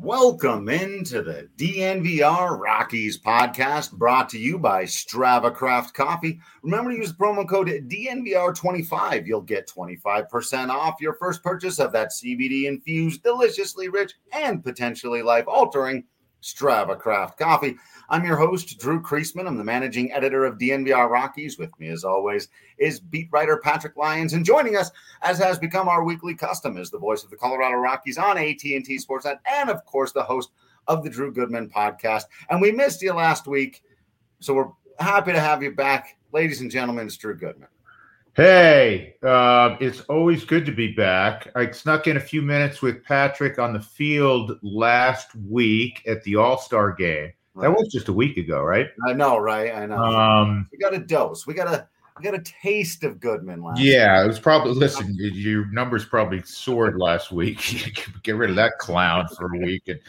Welcome into the DNVR Rockies podcast, brought to you by Strava Craft Coffee. Remember to use the promo code DNVR25. You'll get 25% off your first purchase of that CBD-infused, deliciously rich, and potentially life-altering Strava Craft Coffee. I'm your host, Drew Creasman. I'm the managing editor of DNVR Rockies. With me, as always, is beat writer Patrick Lyons. And joining us, as has become our weekly custom, is the voice of the Colorado Rockies on AT&T Sportsnet, and, of course, the host of the Drew Goodman podcast. And we missed you last week, so we're happy to have you back. Ladies and gentlemen, it's Drew Goodman. Hey, it's always good to be back. I snuck in a few minutes with Patrick on the field last week at the All-Star game. Right. That was just a week ago, right? I know, right? I know. We got a dose. We got a taste of Goodman last week. It was probably, listen, your numbers probably soared last week. Get rid of that clown for a week. And,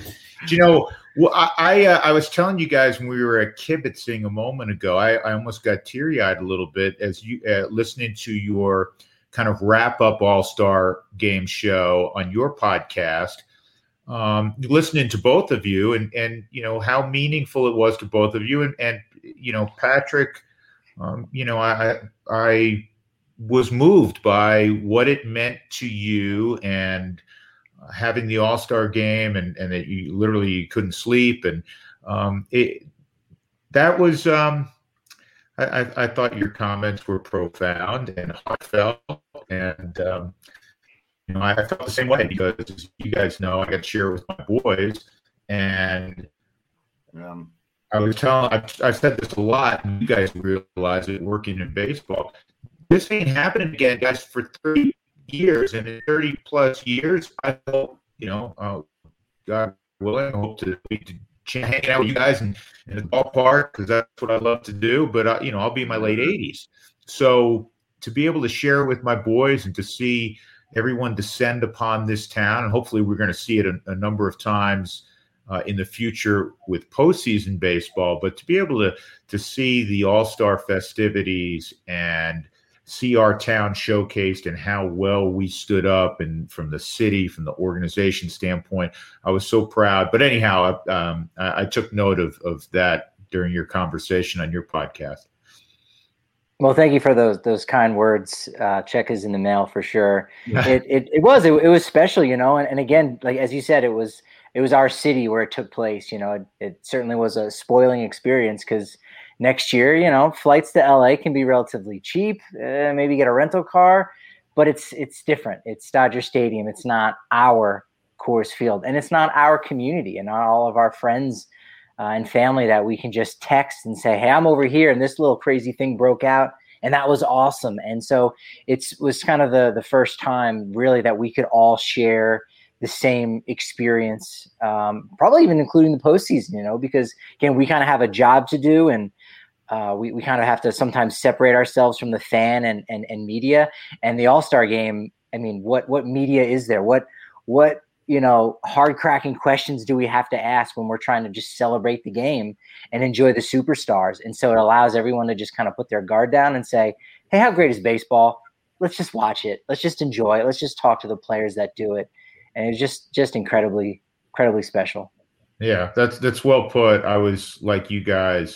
I was telling you guys when we were kibitzing a moment ago, I almost got teary-eyed a little bit as you listening to your kind of wrap-up All-Star game show on your podcast. Listening to both of you and how meaningful it was to both of you and Patrick, I was moved by what it meant to you and having the All-Star game and that you literally couldn't sleep and that was I thought your comments were profound and heartfelt and I felt the same way because you guys know I got to share it with my boys, and I was telling. I've said this a lot, and you guys realize it working in baseball. This ain't happening again, guys, for 30 years, and in 30 plus years, I hope God willing, I hope to hang out with you guys in the ballpark because that's what I love to do. But I'll be in my late 80s, so to be able to share with my boys and to see everyone descend upon this town, and hopefully we're going to see it a number of times in the future with postseason baseball. But to be able to see the All-Star festivities and see our town showcased and how well we stood up, and from the city, from the organization standpoint, I was so proud. But anyhow, I took note of that during your conversation on your podcast. Well, thank you for those kind words. Check is in the mail for sure. It was special, and again, like as you said, it was our city where it took place. It certainly was a spoiling experience because next year, flights to LA can be relatively cheap. Maybe get a rental car, but it's different. It's Dodger Stadium. It's not our Coors Field, and it's not our community and not all of our friends and family that we can just text and say, hey, I'm over here and this little crazy thing broke out. And that was awesome. And so it was kind of the first time really that we could all share the same experience, probably even including the postseason, because again, we kind of have a job to do and we kind of have to sometimes separate ourselves from the fan and media. And the All-Star game, I mean, what media is there? What hard cracking questions do we have to ask when we're trying to just celebrate the game and enjoy the superstars? And so it allows everyone to just kind of put their guard down and say, hey, how great is baseball? Let's just watch it. Let's just enjoy it. Let's just talk to the players that do it. And it's just incredibly, incredibly special. Yeah, that's well put. I was like you guys,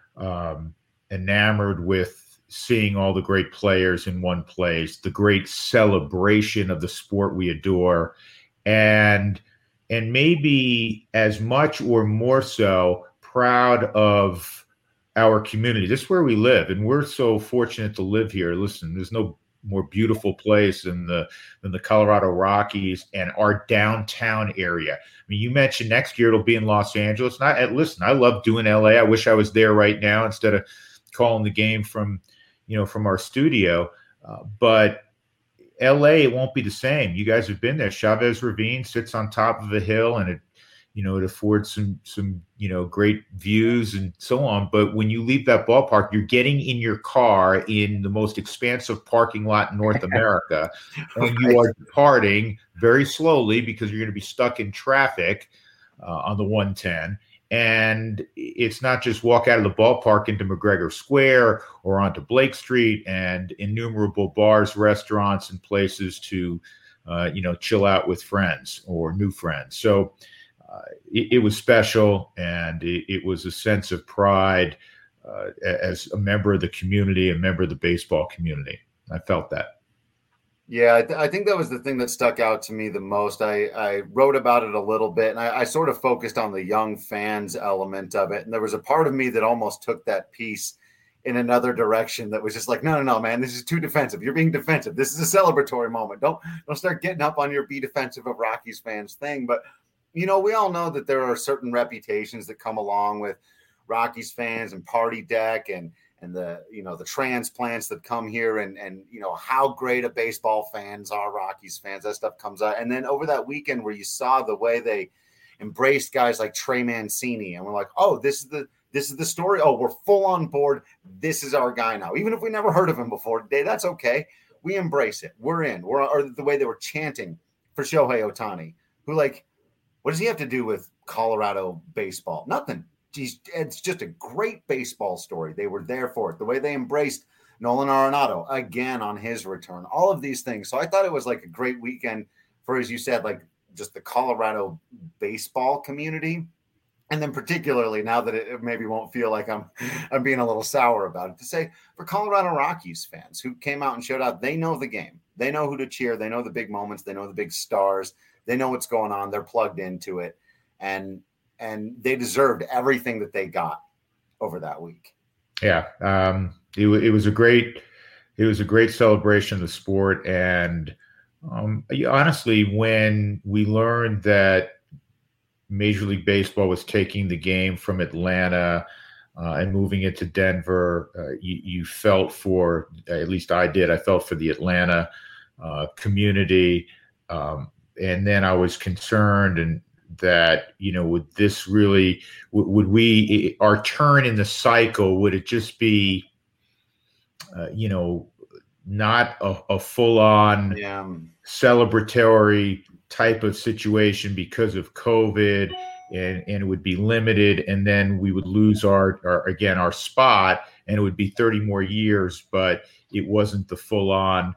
enamored with seeing all the great players in one place, the great celebration of the sport we adore. And maybe as much or more so proud of our community. This is where we live, and we're so fortunate to live here. Listen, there's no more beautiful place than the Colorado Rockies and our downtown area. I mean, you mentioned next year it'll be in Los Angeles. Listen, I love doing LA. I wish I was there right now instead of calling the game from our studio. But LA, it won't be the same. You guys have been there. Chavez Ravine sits on top of a hill, and it affords some great views and so on. But when you leave that ballpark, you're getting in your car in the most expansive parking lot in North America, and you are departing very slowly because you're going to be stuck in traffic on the 110. And it's not just walk out of the ballpark into McGregor Square or onto Blake Street and innumerable bars, restaurants, and places to, chill out with friends or new friends. So it was special, and it was a sense of pride as a member of the community, a member of the baseball community. I felt that. Yeah, I think that was the thing that stuck out to me the most. I wrote about it a little bit, and I sort of focused on the young fans element of it. And there was a part of me that almost took that piece in another direction that was just like, no, man, this is too defensive. You're being defensive. This is a celebratory moment. Don't start getting up on your be defensive of Rockies fans thing. But, we all know that there are certain reputations that come along with Rockies fans and Party Deck and the the transplants that come here and how great a baseball fans are Rockies fans. That stuff comes out. And then over that weekend where you saw the way they embraced guys like Trey Mancini, and we're like, oh, this is the story. Oh, we're full on board. This is our guy now. Even if we never heard of him before today, that's okay. We embrace it. We're in. Or the way they were chanting for Shohei Ohtani, who, like, what does he have to do with Colorado baseball? Nothing. It's just a great baseball story. They were there for it. The way they embraced Nolan Arenado again on his return, all of these things. So I thought it was like a great weekend for, as you said, like just the Colorado baseball community. And then particularly now that it maybe won't feel like I'm being a little sour about it, to say for Colorado Rockies fans who came out and showed out, they know the game. They know who to cheer. They know the big moments. They know the big stars. They know what's going on. They're plugged into it. And they deserved everything that they got over that week. Yeah, it was a great celebration of the sport, and honestly, when we learned that Major League Baseball was taking the game from Atlanta and moving it to Denver, you felt for, at least I did. I felt for the Atlanta community, and then I was concerned and that, would this really, would we, our turn in the cycle, would it just be, not a full-on celebratory type of situation because of COVID, and it would be limited, and then we would lose our spot, and it would be 30 more years, but it wasn't the full-on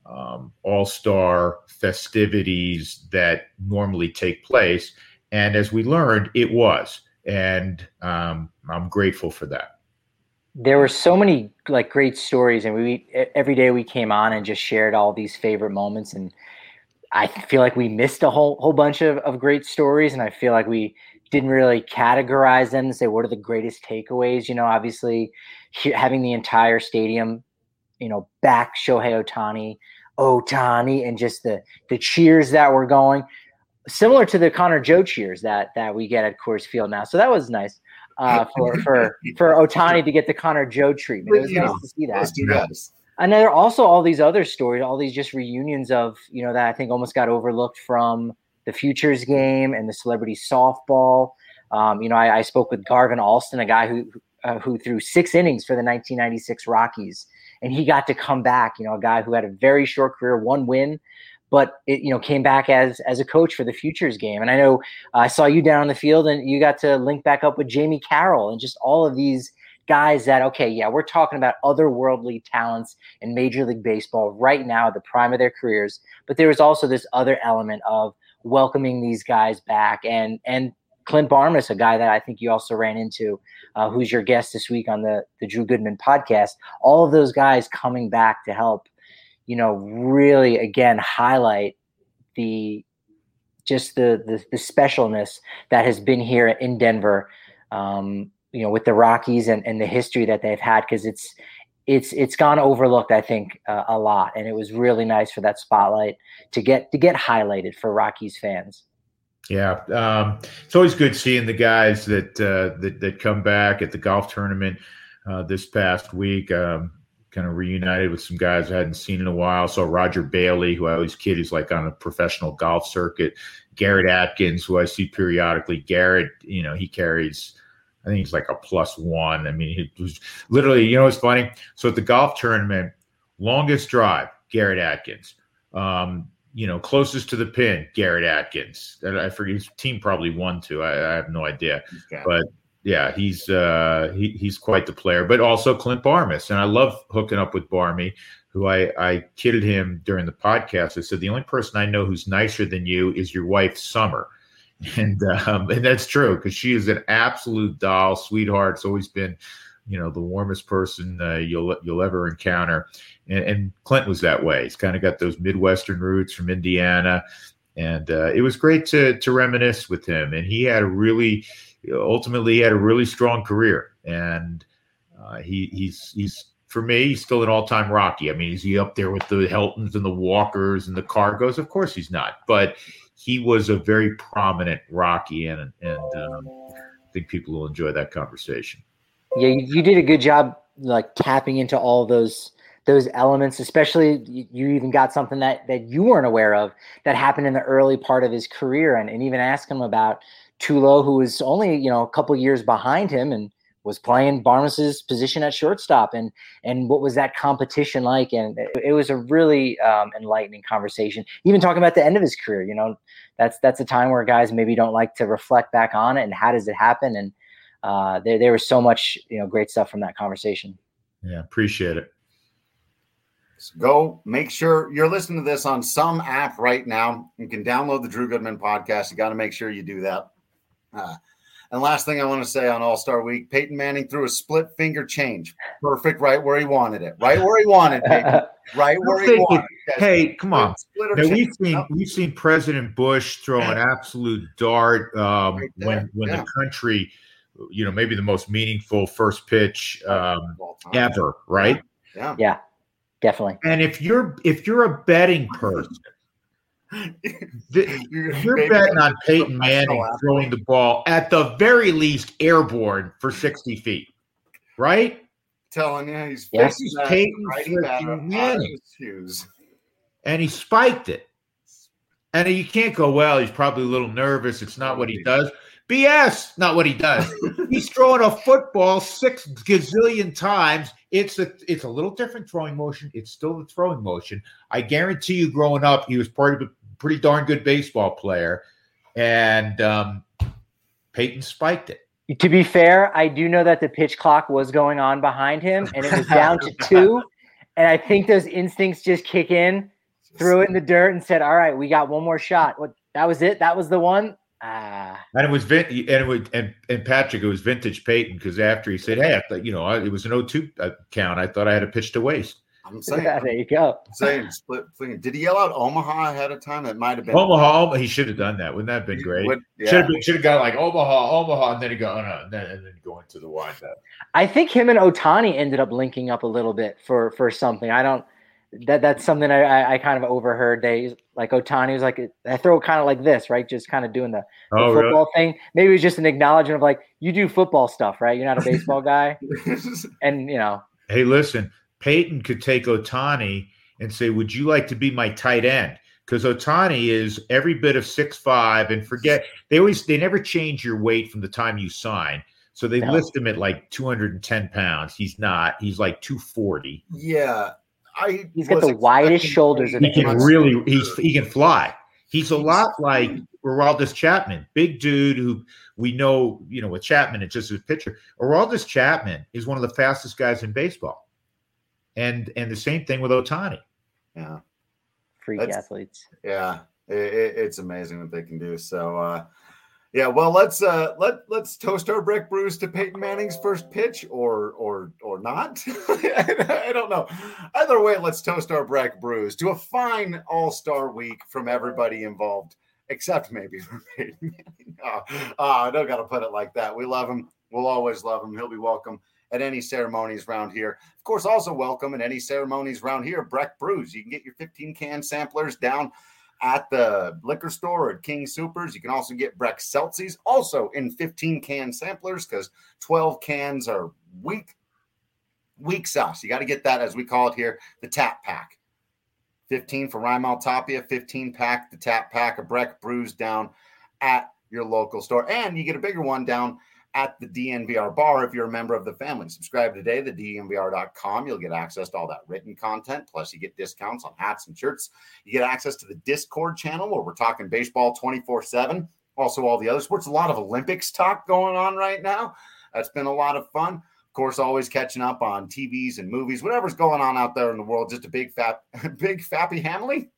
all-star festivities that normally take place. And as we learned, it was. And I'm grateful for that. There were so many great stories, and every day we came on and just shared all these favorite moments. And I feel like we missed a whole bunch of great stories, and I feel like we didn't really categorize them and say what are the greatest takeaways. Obviously having the entire stadium, back Shohei Ohtani, and just the cheers that were going, similar to the Connor Joe cheers that we get at Coors Field now. So that was nice for Ohtani to get the Connor Joe treatment. It was nice to see that. And there are also all these other stories, all these just reunions of, that I think almost got overlooked from the Futures game and the celebrity softball. I spoke with Garvin Alston, a guy who threw 6 innings for the 1996 Rockies, and he got to come back, a guy who had a very short career, 1 win, but it, came back as a coach for the Futures game. And I know I saw you down on the field, and you got to link back up with Jamie Carroll and just all of these guys that, we're talking about otherworldly talents in Major League Baseball right now at the prime of their careers. But there was also this other element of welcoming these guys back. And Clint Barmas, a guy that I think you also ran into, who's your guest this week on the Drew Goodman podcast, all of those guys coming back to help, really, again, highlight the specialness that has been here in Denver, with the Rockies and the history that they've had, because it's gone overlooked, I think, a lot. And it was really nice for that spotlight to get highlighted for Rockies fans. Yeah. It's always good seeing the guys that come back at the golf tournament this past week. Kind of reunited with some guys I hadn't seen in a while. So Roger Bailey, who I always kid is like on a professional golf circuit. Garrett Atkins, who I see periodically. Garrett, he carries, I think he's like a +1. I mean, he was literally, it's funny. So at the golf tournament, longest drive, Garrett Atkins. Closest to the pin, Garrett Atkins. I forget, his team probably won too. I have no idea. Okay. But yeah, he's quite the player. But also Clint Barmas, and I love hooking up with Barmy, who I kidded him during the podcast. I said, the only person I know who's nicer than you is your wife, Summer. And that's true, because she is an absolute doll, sweetheart. It's always been, the warmest person you'll ever encounter. And Clint was that way. He's kind of got those Midwestern roots from Indiana. And it was great to reminisce with him. And he had ultimately had a really strong career. And he's for me, he's still an all-time Rocky. I mean, is he up there with the Heltons and the Walkers and the Cargos? Of course he's not. But he was a very prominent Rocky, and I think people will enjoy that conversation. Yeah, you did a good job, like tapping into all those elements. Especially, you even got something that you weren't aware of that happened in the early part of his career, and even ask him about Tulo, who was only a couple years behind him and was playing Barnes's position at shortstop, and what was that competition like? And it was a really enlightening conversation. Even talking about the end of his career, that's a time where guys maybe don't like to reflect back on it and how does it happen. And there was so much great stuff from that conversation. Yeah, appreciate it. So go make sure you're listening to this on some app right now. You can download the Drew Goodman podcast. You got to make sure you do that. And last thing I want to say on All-Star Week, Peyton Manning threw a split finger change. Perfect, right where he wanted it. Right where he wanted it. Right where he wanted it. Hey, come on. Now, we've seen President Bush throw an absolute dart when the country, maybe the most meaningful first pitch ever, right? Yeah, definitely. And if you're a betting person, you're betting on Peyton Manning throwing the ball at the very least airborne for 60 feet, right? Telling you, he's Peyton Manning, and he spiked it. And you can't go, well, he's probably a little nervous. It's not what he does. BS, not what he does. He's throwing a football 6 gazillion times. It's a little different throwing motion. It's still the throwing motion. I guarantee you, growing up, he was part of a pretty darn good baseball player, and Peyton spiked it. To be fair, I do know that the pitch clock was going on behind him, and it was down to 2. And I think those instincts just kick in, threw it in the dirt, and said, "All right, we got one more shot." That was it. That was the one. And it was and Patrick, it was vintage Peyton, because after he said, "Hey, I thought, it was an 0-2 count. I thought I had a pitch to waste." I'm saying, there you go. I'm saying split. Did he yell out Omaha ahead of time? That might have been Omaha. He should have done that. Wouldn't that have been great? Should have got like Omaha, and then he go, oh, no, and then go into the windup. I think him and Ohtani ended up linking up a little bit for something. That's something I kind of overheard. They like Ohtani was like, I throw it kind of like this, right? Just kind of doing the football thing. Maybe it was just an acknowledgement of like, you do football stuff, right? You're not a baseball guy. And hey, listen, Peyton could take Ohtani and say, would you like to be my tight end? Because Ohtani is every bit of 6'5", and forget they never change your weight from the time you sign. So they list him at like 210 pounds. He's not. He's like 240. Yeah. He's got the widest shoulders. He can fly. He's a lot like Aroldis Chapman, big dude who we know, with Chapman, it's just a pitcher. Aroldis Chapman is one of the fastest guys in baseball. And the same thing with Ohtani. Yeah. Freak athletes. Yeah. It's amazing what they can do. So, yeah, well, let's toast our Breck Brews to Peyton Manning's first pitch or not. I don't know. Either way, let's toast our Breck Brews to a fine All-Star Week from everybody involved, except maybe for Peyton Manning. I don't got to put it like that. We love him. We'll always love him. He'll be welcome at any ceremonies around here. Of course, also welcome at any ceremonies around here, Breck Brews. You can get your 15-can samplers down at the liquor store or at King Soopers. You can also get Breck Seltzies, also in 15-can samplers, because 12 cans are weak sauce. You got to get that, as we call it here, the tap pack. 15 for Rymel Tapia, 15-pack, the tap pack of Breck Brews down at your local store. And you get a bigger one down at the DNVR bar if you're a member of the family. Subscribe today to DNVR.com. You'll get access to all that written content. Plus, you get discounts on hats and shirts. You get access to the Discord channel where we're talking baseball 24/7. Also, all the other sports. A lot of Olympics talk going on right now. That's been a lot of fun. Of course, always catching up on TVs and movies, whatever's going on out there in the world. Just a big fappy Hamley.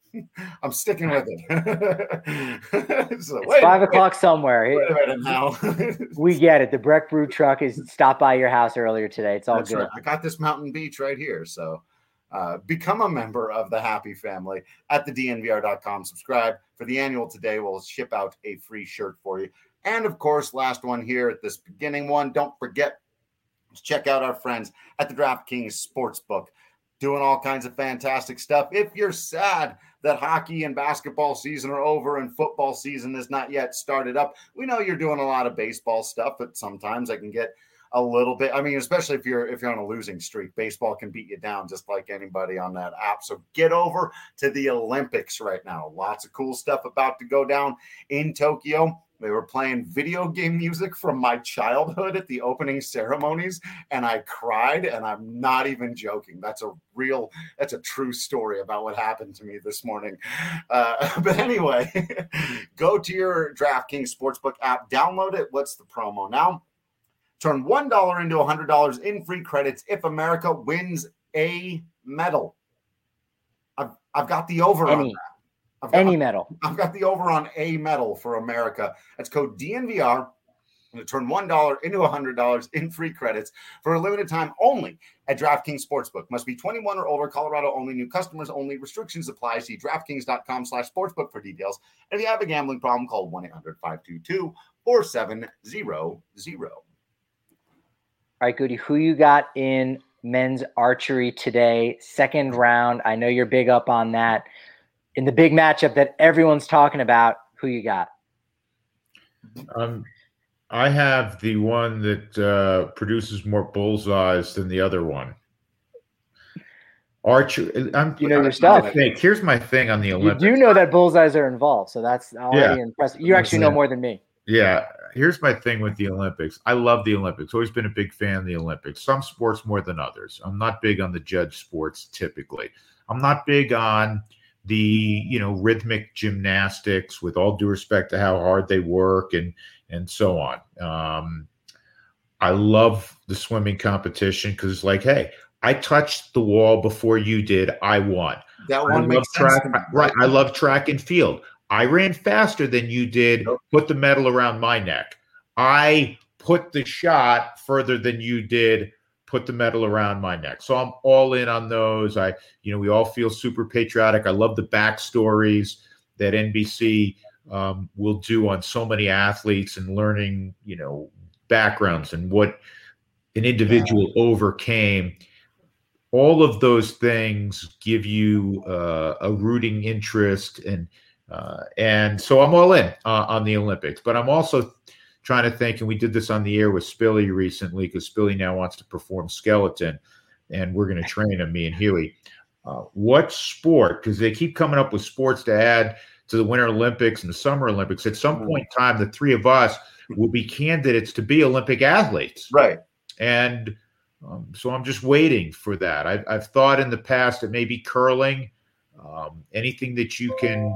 I'm sticking with it. So, it's 5 o'clock somewhere. Wait a minute now. We get it. The Breck Brew truck is stopped by your house earlier today. It's all That's good. Right. I got this Mountain Beach right here. So become a member of the Happy Family at thednvr.com. Subscribe for the annual today. We'll ship out a free shirt for you. And of course, last one here at this beginning one. Don't forget, check out our friends at the DraftKings Sportsbook. Doing all kinds of fantastic stuff. If you're sad that hockey and basketball season are over and football season is not yet started up, we know you're doing a lot of baseball stuff, but sometimes I can get a little bit. I mean, especially if you're on a losing streak, baseball can beat you down just like anybody on that app. So get over to the Olympics right now. Lots of cool stuff about to go down in Tokyo. They were playing video game music from my childhood at the opening ceremonies, and I cried, and I'm not even joking. That's a true story about what happened to me this morning. But anyway, go to your DraftKings Sportsbook app, download it. What's the promo now? Turn $1 into $100 in free credits if America wins a medal. I've got the over on that. Any medal. I've got the over on a medal for America. That's code DNVR. To turn $1 into $100 in free credits for a limited time only at DraftKings Sportsbook. Must be 21 or older. Colorado only. New customers only. Restrictions apply. See DraftKings.com/sportsbook for details. And if you have a gambling problem, call 1-800-522-4700. All right, Goody. Who you got in men's archery today? Second round. I know you're big up on that. In the big matchup that everyone's talking about, who you got? I have the one that produces more bullseyes than the other one. Archer, your stuff. Here's my thing on the Olympics. You do know that bullseyes are involved, so that's already impressive. You actually know more than me. Yeah. Here's my thing with the Olympics. I love the Olympics. Always been a big fan of the Olympics. Some sports more than others. I'm not big on the judge sports typically. I'm not big on the rhythmic gymnastics, with all due respect to how hard they work and so on. I love the swimming competition because it's like, hey, I touched the wall before you did. I won. That one makes sense. Right. I love track and field. I ran faster than you did. Nope. Put the medal around my neck. I put the shot further than you did. Put the medal around my neck. So I'm all in on those. We all feel super patriotic. I love the backstories that NBC will do on so many athletes and learning, backgrounds and what an individual overcame. All of those things give you a rooting interest, and so I'm all in on the Olympics. But I'm also trying to think, and we did this on the air with Spilly recently, because Spilly now wants to perform skeleton, and we're going to train him, me and Huey. What sport, because they keep coming up with sports to add to the Winter Olympics and the Summer Olympics. At some point in time, the three of us will be candidates to be Olympic athletes. Right. And so I'm just waiting for that. I've thought in the past that maybe curling, anything that you can,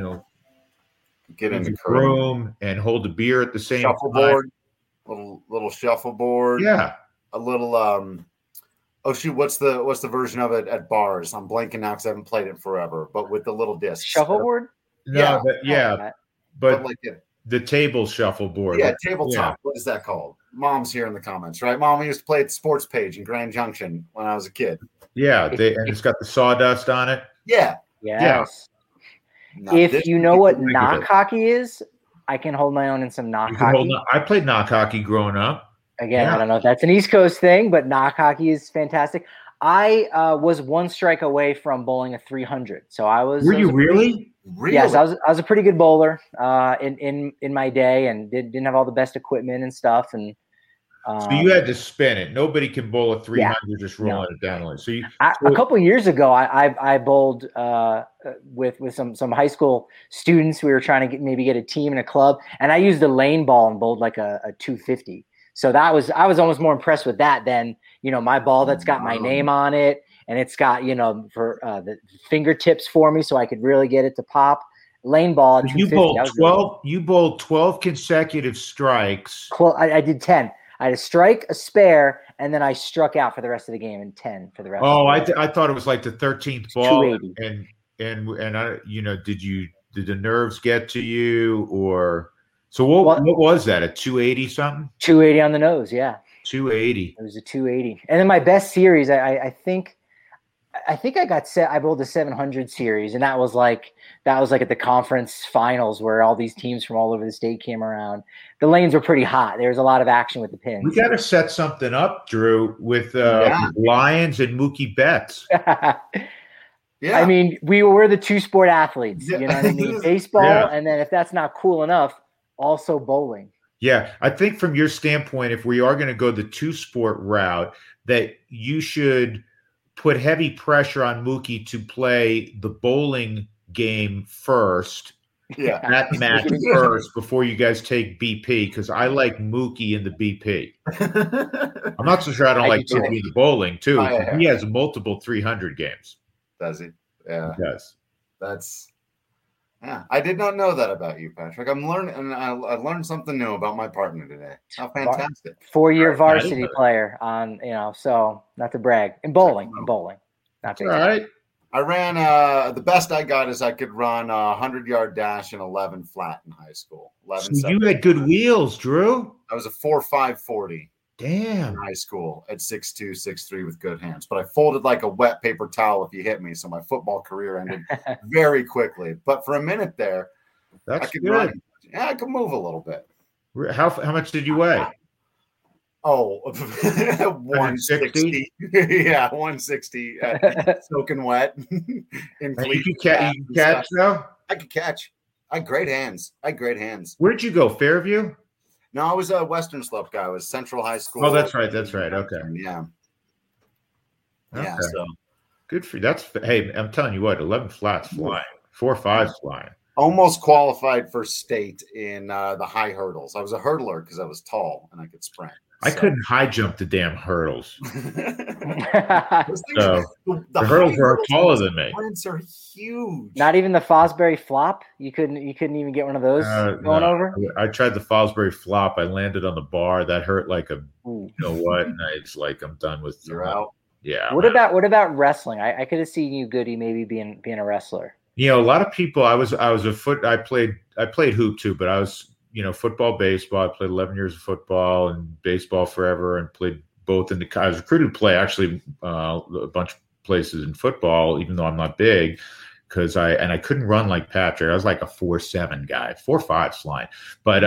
get in the room and hold a beer at the same shuffleboard, little shuffleboard. Yeah. A little oh shoot, what's the version of it at bars? I'm blanking now because I haven't played it forever, but with the little discs. Shuffleboard? No, but like the table shuffleboard. Yeah, tabletop. Yeah. What is that called? Mom's here in the comments, right? Mom, we used to play at the sports page in Grand Junction when I was a kid. Yeah, and it's got the sawdust on it. Yeah. Yes. If you know what knock hockey is, I can hold my own in some knock hockey. I played knock hockey growing up. Again, I don't know if that's an East Coast thing, but knock hockey is fantastic. I was one strike away from bowling a 300. So I was. Were you really? Yes, I was a pretty good bowler in my day, and didn't have all the best equipment and stuff. And so you had to spin it. Nobody can bowl a 300 just rolling it down. So a couple of years ago, I bowled with some high school students. We were trying to maybe get a team and a club, and I used a lane ball and bowled like a 250. So I was almost more impressed with that than my ball that's got my name on it, and it's got for the fingertips for me, so I could really get it to pop. Lane ball. You bowled 12. You bowled 12 consecutive strikes. I did 10. I had a strike, a spare, and then I struck out for the rest of the game, and 10 for the rest. Oh, I thought it was like the 13th ball. 280. And and I, did the nerves get to you, or so what was that, a 280 something? 280 on the nose, yeah. 280. It was a 280. And then my best series, I think I bowled the 700 series, and that was like at the conference finals where all these teams from all over the state came around. The lanes were pretty hot. There was a lot of action with the pins. We got to set something up, Drew, with Lions and Mookie Betts. Yeah. I mean, we're the two sport athletes, you know what I mean? Baseball, and then if that's not cool enough, also bowling. Yeah, I think from your standpoint, if we are going to go the two sport route, that you should put heavy pressure on Mookie to play the bowling game first. Yeah, that match first before you guys take BP, because I like Mookie in the BP. I'm not so sure I don't like Mookie in the bowling too. He has multiple 300 games. Does he? Yeah, he does. That's. Yeah, I did not know that about you, Patrick. I'm learning, and I learned something new about my partner today. How fantastic! 4-year varsity player on, so not to brag in bowling. Not all right. I ran the best I got is I could run a 100-yard dash in 11 flat in high school. So you had good wheels, Drew. I was a 4.5 40. Damn. In high school at 6'2", 6'3" with good hands. But I folded like a wet paper towel if you hit me, so my football career ended very quickly. But for a minute there, that's I could good. run. Yeah, I could move a little bit. How much did you weigh? Oh, 160. Yeah, 160. Soaking wet. You can catch, though? I could catch. I had great hands. Where'd you go, Fairview? No, I was a Western Slope guy. I was Central High School. Oh, that's right. Okay. Yeah. Okay. Yeah. So good for you. Hey, I'm telling you what, 11 flats flying, 4.5 flying. Almost qualified for state in the high hurdles. I was a hurdler because I was tall and I could sprint. I couldn't high jump the damn hurdles. The hurdles are taller than me. Sprints are huge. Not even the Fosbury flop. You couldn't even get one of those going over. I tried the Fosbury flop. I landed on the bar. That hurt like a. You know what? And it's like I'm done with. You're out. Yeah. What about wrestling? I could have seen you, Goody, maybe being a wrestler. A lot of people. I played hoop too, but I was. Football, baseball. I played 11 years of football and baseball forever, and played both in I was recruited to play actually a bunch of places in football, even though I'm not big, because I couldn't run like Patrick. I was like a 4.7 guy, 4.5 line. But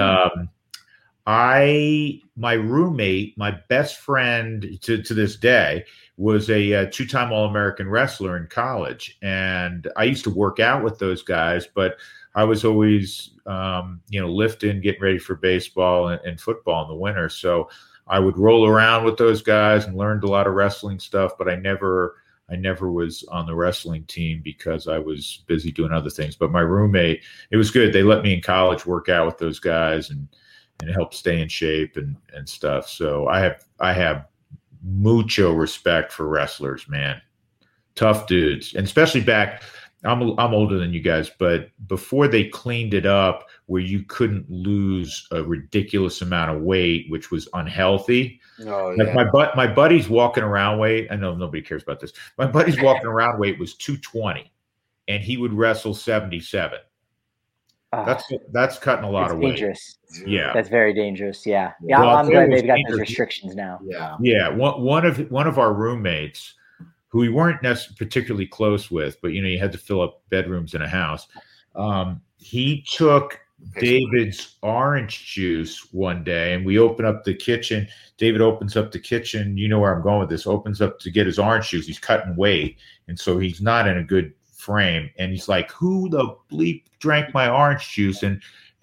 my roommate, my best friend to this day, was a two-time All-American wrestler in college, and I used to work out with those guys, but I was always, lifting, getting ready for baseball and football in the winter. So I would roll around with those guys and learned a lot of wrestling stuff, but I never was on the wrestling team because I was busy doing other things. But my roommate, it was good. They let me in college work out with those guys and help stay in shape and stuff. So I have mucho respect for wrestlers, man. Tough dudes. And especially back, I'm older than you guys, but before they cleaned it up where you couldn't lose a ridiculous amount of weight, which was unhealthy. Oh, yeah. Like my buddy's walking around weight. I know nobody cares about this. My buddy's walking around weight was 220, and he would wrestle 77. That's cutting a lot of weight. Dangerous. Yeah, that's very dangerous. Yeah. Well, I'm glad they've got those restrictions now. Yeah. One of our roommates, who we weren't particularly close with, but you had to fill up bedrooms in a house. He took David's orange juice one day, and we open up the kitchen. David opens up the kitchen. You know where I'm going with this. Opens up to get his orange juice. He's cutting weight, and so he's not in a good frame. And he's like, "Who the bleep drank my orange juice?" And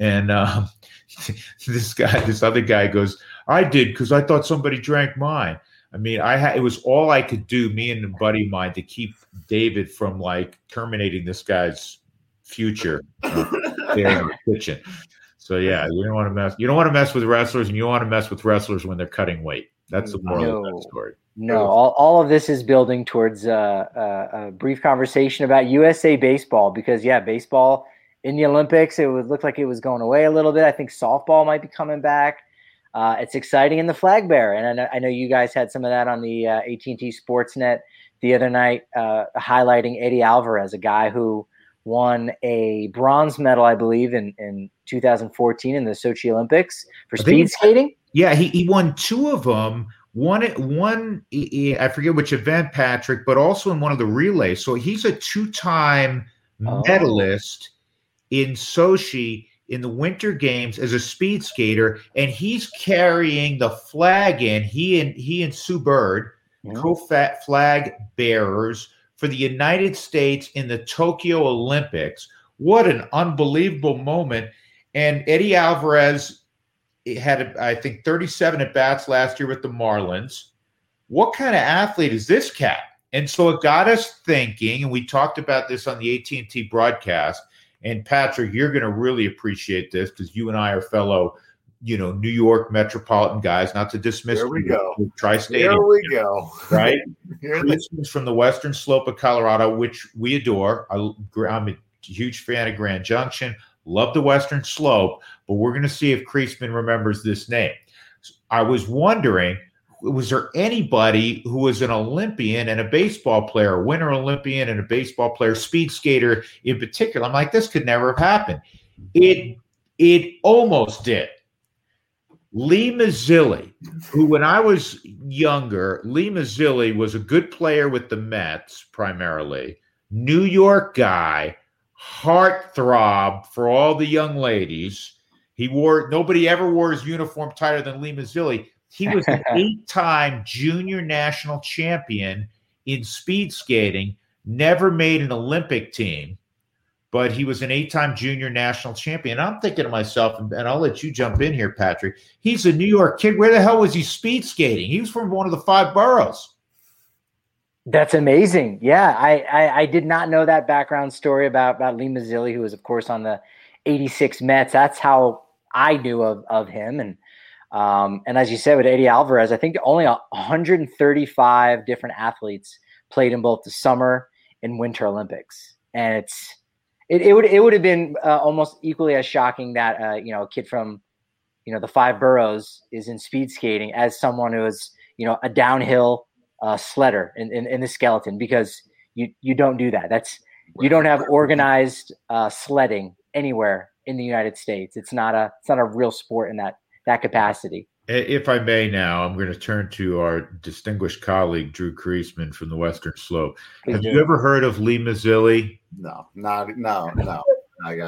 this other guy goes, "I did because I thought somebody drank mine." I mean, it was all I could do, me and a buddy of mine, to keep David from like terminating this guy's future there in the kitchen. So yeah, you don't want to mess with wrestlers, and you don't want to mess with wrestlers when they're cutting weight. That's the moral of that story. No, all of this is building towards a brief conversation about USA baseball, because baseball in the Olympics, it would look like it was going away a little bit. I think softball might be coming back. It's exciting in the flag bearer, and I know you guys had some of that on the AT&T Sportsnet the other night highlighting Eddie Alvarez, a guy who won a bronze medal, I believe, in 2014 in the Sochi Olympics for speed skating. Yeah, he won 2 of them. One, I forget which event, Patrick, but also in one of the relays. So he's a 2-time medalist in Sochi in the Winter Games as a speed skater, and he's carrying the flag in. He and Sue Bird, co-flag bearers for the United States in the Tokyo Olympics. What an unbelievable moment. And Eddie Alvarez had, I think, 37 at-bats last year with the Marlins. What kind of athlete is this cat? And so it got us thinking, and we talked about this on the AT&T broadcast. And Patrick, you're going to really appreciate this because you and I are fellow, New York metropolitan guys. Not to dismiss. Here we go. Tri-state. Here we go. Right. Christmas from the Western Slope of Colorado, which we adore. I'm a huge fan of Grand Junction. Love the Western Slope, but we're going to see if Kriesman remembers this name. I was wondering, was there anybody who was an Olympian and a baseball player, a winter Olympian and a baseball player, speed skater in particular? I'm like, this could never have happened. It almost did. Lee Mazzilli, who when I was younger, Lee Mazzilli was a good player with the Mets primarily, New York guy, heartthrob for all the young ladies. Nobody ever wore his uniform tighter than Lee Mazzilli. He was an 8-time junior national champion in speed skating, never made an Olympic team, but he was an 8-time junior national champion. I'm thinking to myself, and I'll let you jump in here, Patrick, he's a New York kid. Where the hell was he speed skating? He was from one of the 5 boroughs. That's amazing. Yeah, I did not know that background story about Lee Mazzilli, who was, of course, on the 86 Mets. That's how I knew of him. And as you said, with Eddie Alvarez, I think only 135 different athletes played in both the summer and winter Olympics. And it would have been almost equally as shocking that, a kid from, the 5 boroughs is in speed skating as someone who is, a downhill sledder in the skeleton, because you don't do that. You don't have organized sledding anywhere in the United States. It's not a real sport in that capacity. If I may now, I'm going to turn to our distinguished colleague, Drew Kriesman from the Western Slope. Have you ever heard of Lee Mazzilli? No. I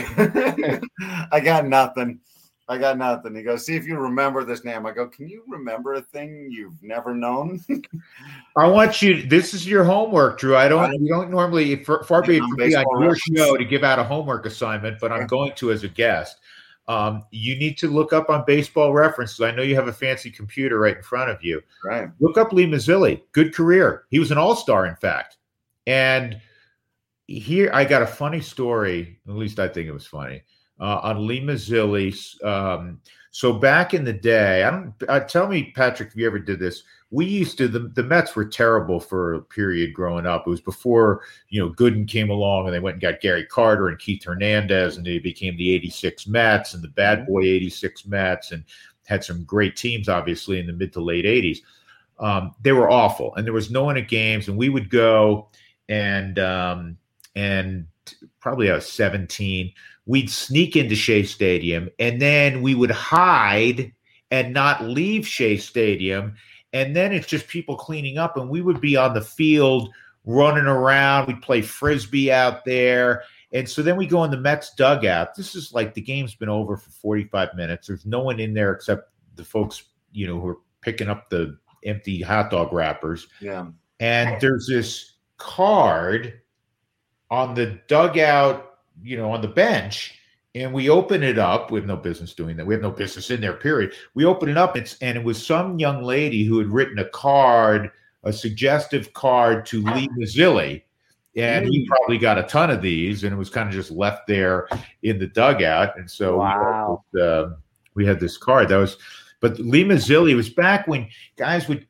got nothing. He goes, see if you remember this name. I go, can you remember a thing you've never known? I want you, this is your homework, Drew. We don't normally, far be it from me on your show to give out a homework assignment, but I'm going to as a guest. You need to look up on Baseball Reference. I know you have a fancy computer right in front of you. Right. Look up Lee Mazzilli. Good career. He was an all-star, in fact. And here I got a funny story. At least I think it was funny. On Lee Mazzilli. So back in the day, tell me, Patrick, if you ever did this. We used to, the Mets were terrible for a period growing up. It was before, Gooden came along and they went and got Gary Carter and Keith Hernandez, and they became the 86 Mets and the bad boy 86 Mets, and had some great teams, obviously, in the mid to late 80s. They were awful, and there was no one at games, and we would go and probably I was 17. We'd sneak into Shea Stadium, and then we would hide and not leave Shea Stadium. And then it's just people cleaning up, and we would be on the field running around. We'd play Frisbee out there. And so then we go in the Mets dugout. This is like the game's been over for 45 minutes. There's no one in there except the folks, who are picking up the empty hot dog wrappers. Yeah. And there's this card on the dugout, on the bench, and we open it up. We have no business doing that. We have no business in there, period. We open it up, and it was some young lady who had written a suggestive card to Lee Mazzilli, and he probably got a ton of these, and it was kind of just left there in the dugout. And so we had this card. But Lee Mazzilli was back when guys would,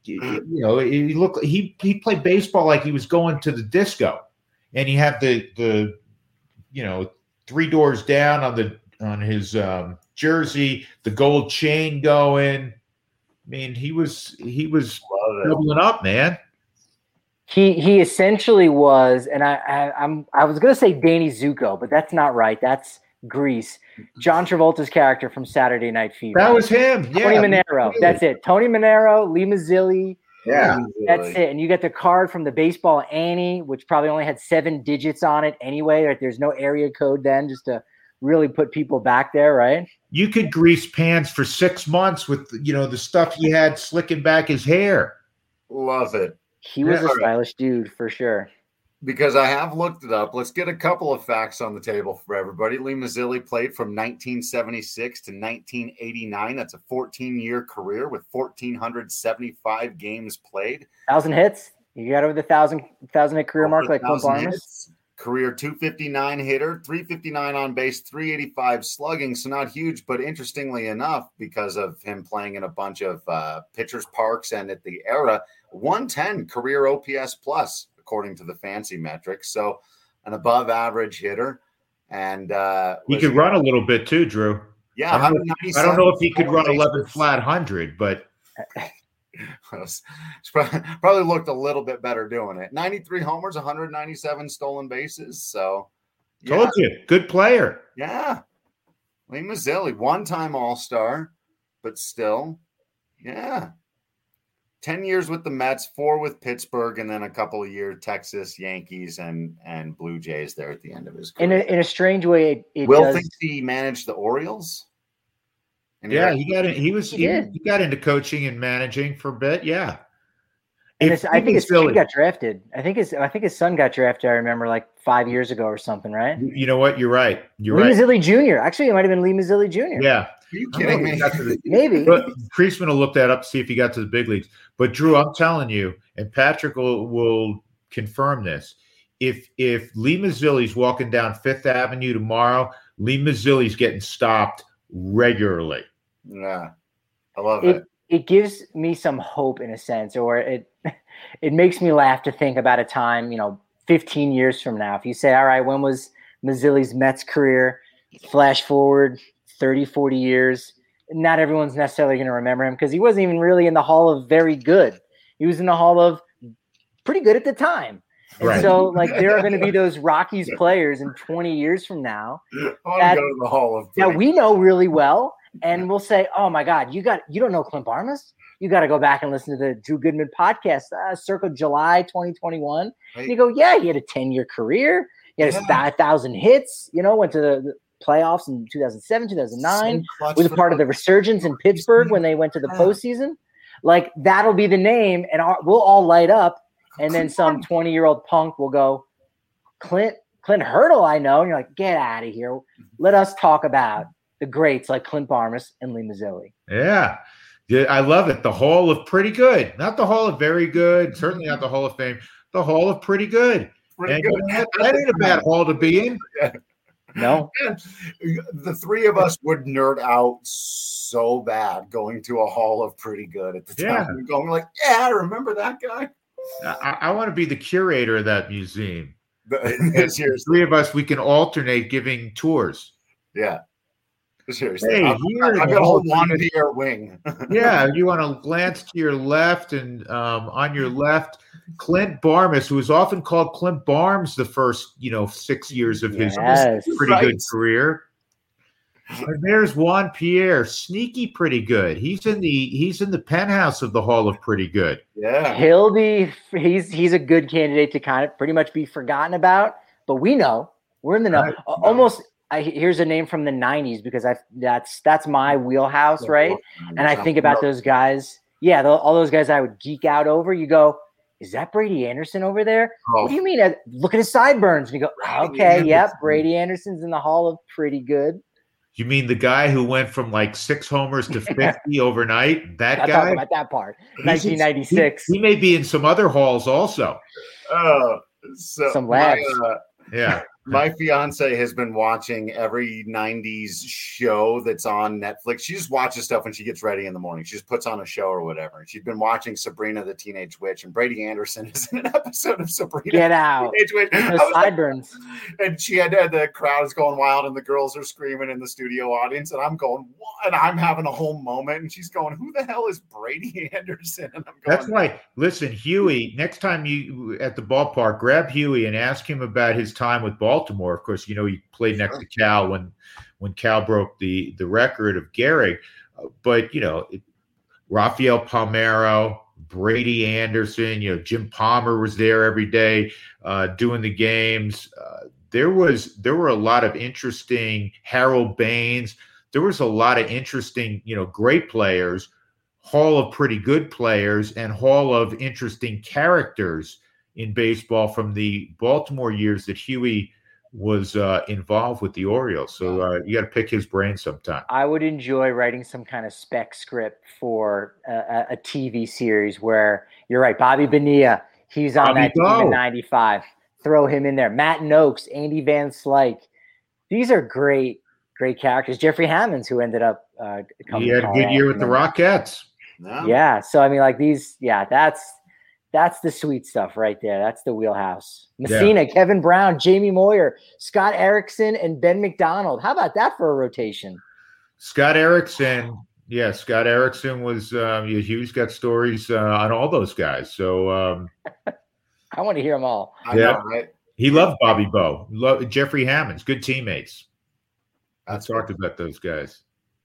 he played baseball like he was going to the disco, and he had the 3 doors down on his jersey, the gold chain going. I mean, he was doubling up, man. He essentially was, and I was gonna say Danny Zuko, but that's not right. That's Grease. John Travolta's character from Saturday Night Fever. That was him. Yeah. Tony Manero. That's it. Tony Manero, Lee Mazzilli. Yeah. That's it. And you get the card from the baseball Annie, which probably only had 7 digits on it anyway. Right? There's no area code then, just to really put people back there, right? You could grease pants for 6 months with, the stuff he had slicking back his hair. Love it. He was a stylish dude for sure. Because I have looked it up. Let's get a couple of facts on the table for everybody. Lee Mazzilli played from 1976 to 1989. That's a 14-year career with 1,475 games played. 1,000 hits. You got over the 1,000 hit career mark like Clint Barnes. Career 259 hitter, 359 on base, 385 slugging. So not huge, but interestingly enough, because of him playing in a bunch of pitchers parks and at the era, 110 career OPS plus, according to the fancy metrics. So an above average hitter. And he could run a little bit too, Drew. Yeah. I don't know if he could run 11 flat 100, but it's probably looked a little bit better doing it. 93 homers, 197 stolen bases. So told you, good player. Yeah. Lee Mazzilli, one-time All-Star, but still, 10 years with the Mets, 4 with Pittsburgh, and then a couple of years Texas, Yankees, and Blue Jays there at the end of his career. In a strange way, Will thinks he managed the Orioles. Yeah, he got into coaching and managing for a bit. Yeah, and I think his son got drafted. I think his son got drafted. I remember like 5 years ago or something, right? You know what? You're right. Lee Mazzilli Jr. Actually, it might have been Lee Mazzilli Jr. Yeah. Are you kidding me? Maybe. Priestman will look that up to see if he got to the big leagues. But Drew, I'm telling you, and Patrick will confirm this. If Lee Mazzilli's walking down Fifth Avenue tomorrow, Lee Mazzilli's getting stopped regularly. Yeah, I love it. It gives me some hope in a sense, or it makes me laugh to think about a time, 15 years from now. If you say, all right, when was Mazzilli's Mets career? Flash forward 30, 40 years. Not everyone's necessarily going to remember him because he wasn't even really in the Hall of very good. He was in the Hall of pretty good at the time. And right. So, there are going to be those Rockies players in 20 years from now that we know really well. And we'll say, oh, my God, you don't know Clint Barmes? You got to go back and listen to the Drew Goodman podcast, circa July 2021. Right. And you go, yeah, he had a 10-year career. He had 1,000 hits, went to the playoffs in 2007, 2009. Was a part of the resurgence in Pittsburgh when they went to the postseason. That'll be the name, and we'll all light up. And then some 20-year-old punk will go, Clint Hurdle, I know. And you're like, get out of here. Let us talk about the greats like Clint Barmes and Lee Mazzilli. Yeah. I love it. The Hall of Pretty Good. Not the Hall of Very Good. Certainly not the Hall of Fame. The Hall of Pretty Good. That ain't a bad hall to be in. No. The three of us would nerd out so bad going to a Hall of Pretty Good at the time. Going like, I remember that guy. I want to be the curator of that museum. Seriously. Three of us, we can alternate giving tours. Yeah. Seriously. Hey, I've got a whole one-pier wing. Yeah, you want to glance to your left, and on your left, Clint Barmes, who is often called Clint Barnes the first, 6 years of his pretty good career. And there's Juan Pierre, sneaky pretty good. He's in the penthouse of the Hall of Pretty Good. Yeah, he's a good candidate to kind of pretty much be forgotten about, but we know we're in the know. Almost. Here's a name from the 90s because that's my wheelhouse, right? And I think about those guys. Yeah, all those guys I would geek out over. You go, is that Brady Anderson over there? Oh. What do you mean? Look at his sideburns. And you go, okay, yep, Brady Anderson's in the Hall of Pretty Good. You mean the guy who went from 6 homers to 50 overnight? That guy? Talking about that part. 1996. He may be in some other halls also. Some labs. Yeah. My fiance has been watching every 90s show that's on Netflix. She just watches stuff when she gets ready in the morning. She just puts on a show or whatever. And she's been watching Sabrina the Teenage Witch, and Brady Anderson is in an episode of Sabrina Get out. the Teenage Witch. No sideburns. And she had the crowd is going wild and the girls are screaming in the studio audience. And I'm going, what? And I'm having a whole moment. And she's going, who the hell is Brady Anderson? And I'm going, that's why, listen, Huey, next time you at the ballpark, grab Huey and ask him about his time with Baltimore. Of course, he played next to Cal when Cal broke the record of Gehrig. But, Rafael Palmeiro, Brady Anderson, Jim Palmer was there every day doing the games. There were a lot of interesting Harold Baines. There was a lot of interesting, great players, Hall of pretty good players, and Hall of interesting characters in baseball from the Baltimore years that Huey was involved with the Orioles. So you got to pick his brain sometime. I would enjoy writing some kind of spec script for a TV series where you're right. Bobby Bonilla, he's on that team in 95. Throw him in there. Matt Noakes, Andy Van Slyke. These are great characters. Jeffrey Hammonds, who ended up coming. He had a good year with the Rockettes. Yeah. So, I mean, like these, that's the sweet stuff right there. That's the wheelhouse. Messina, Kevin Brown, Jamie Moyer, Scott Erickson, and Ben McDonald. How about that for a rotation? Scott Erickson was Hugh's got stories on all those guys. So I want to hear them all. I know, right? He loved Bobby Bowe. Loved Jeffrey Hammonds, good teammates. Let's talk about those guys.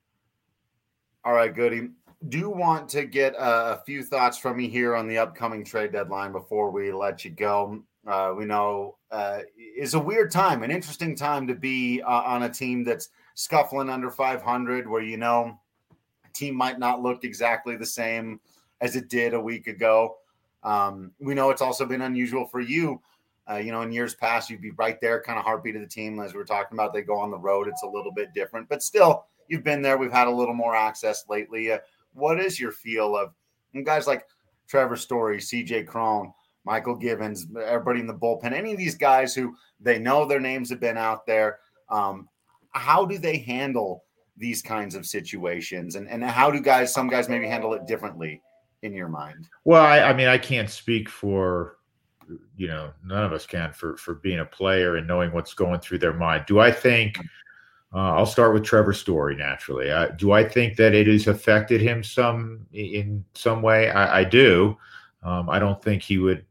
All right, Goody. Do want to get a few thoughts from you here on the upcoming trade deadline before we let you go. We know it's a weird time, an interesting time to be on a team that's scuffling under 500, where a team might not look exactly the same as it did a week ago. We know it's also been unusual for you. In years past, you'd be right there, kind of heartbeat of the team. As we were talking about, they go on the road. It's a little bit different, but still, you've been there. We've had a little more access lately. What is your feel of guys like Trevor Story, CJ Cron, Michael Givens, everybody in the bullpen, any of these guys who they know their names have been out there? How do they handle these kinds of situations? And how do some guys maybe handle it differently in your mind? Well, I can't speak for, none of us can for being a player and knowing what's going through their mind. Do I think I'll start with Trevor Story naturally. Do I think that it has affected him in some way? I do. I don't think he would,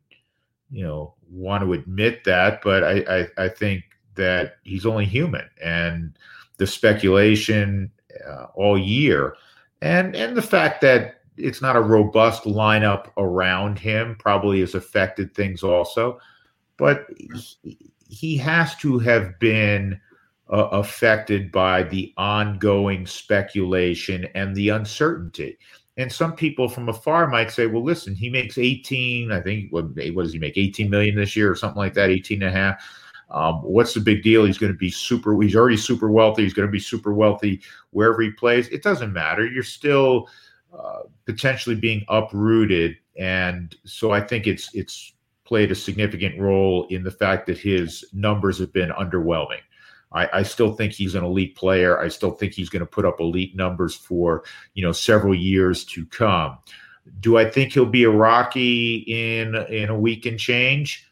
want to admit that, but I think that he's only human, and the speculation all year, and the fact that it's not a robust lineup around him probably has affected things also. But he has to have been affected by the ongoing speculation and the uncertainty. And some people from afar might say, well, listen, he makes 18, I think, what does he make, 18 million this year or something like that, 18 and a half. What's the big deal? He's going to be he's already super wealthy. He's going to be super wealthy wherever he plays. It doesn't matter. You're still potentially being uprooted. And so I think it's played a significant role in the fact that his numbers have been underwhelming. I still think he's an elite player. I still think he's going to put up elite numbers for, several years to come. Do I think he'll be a Rocky in a week and change?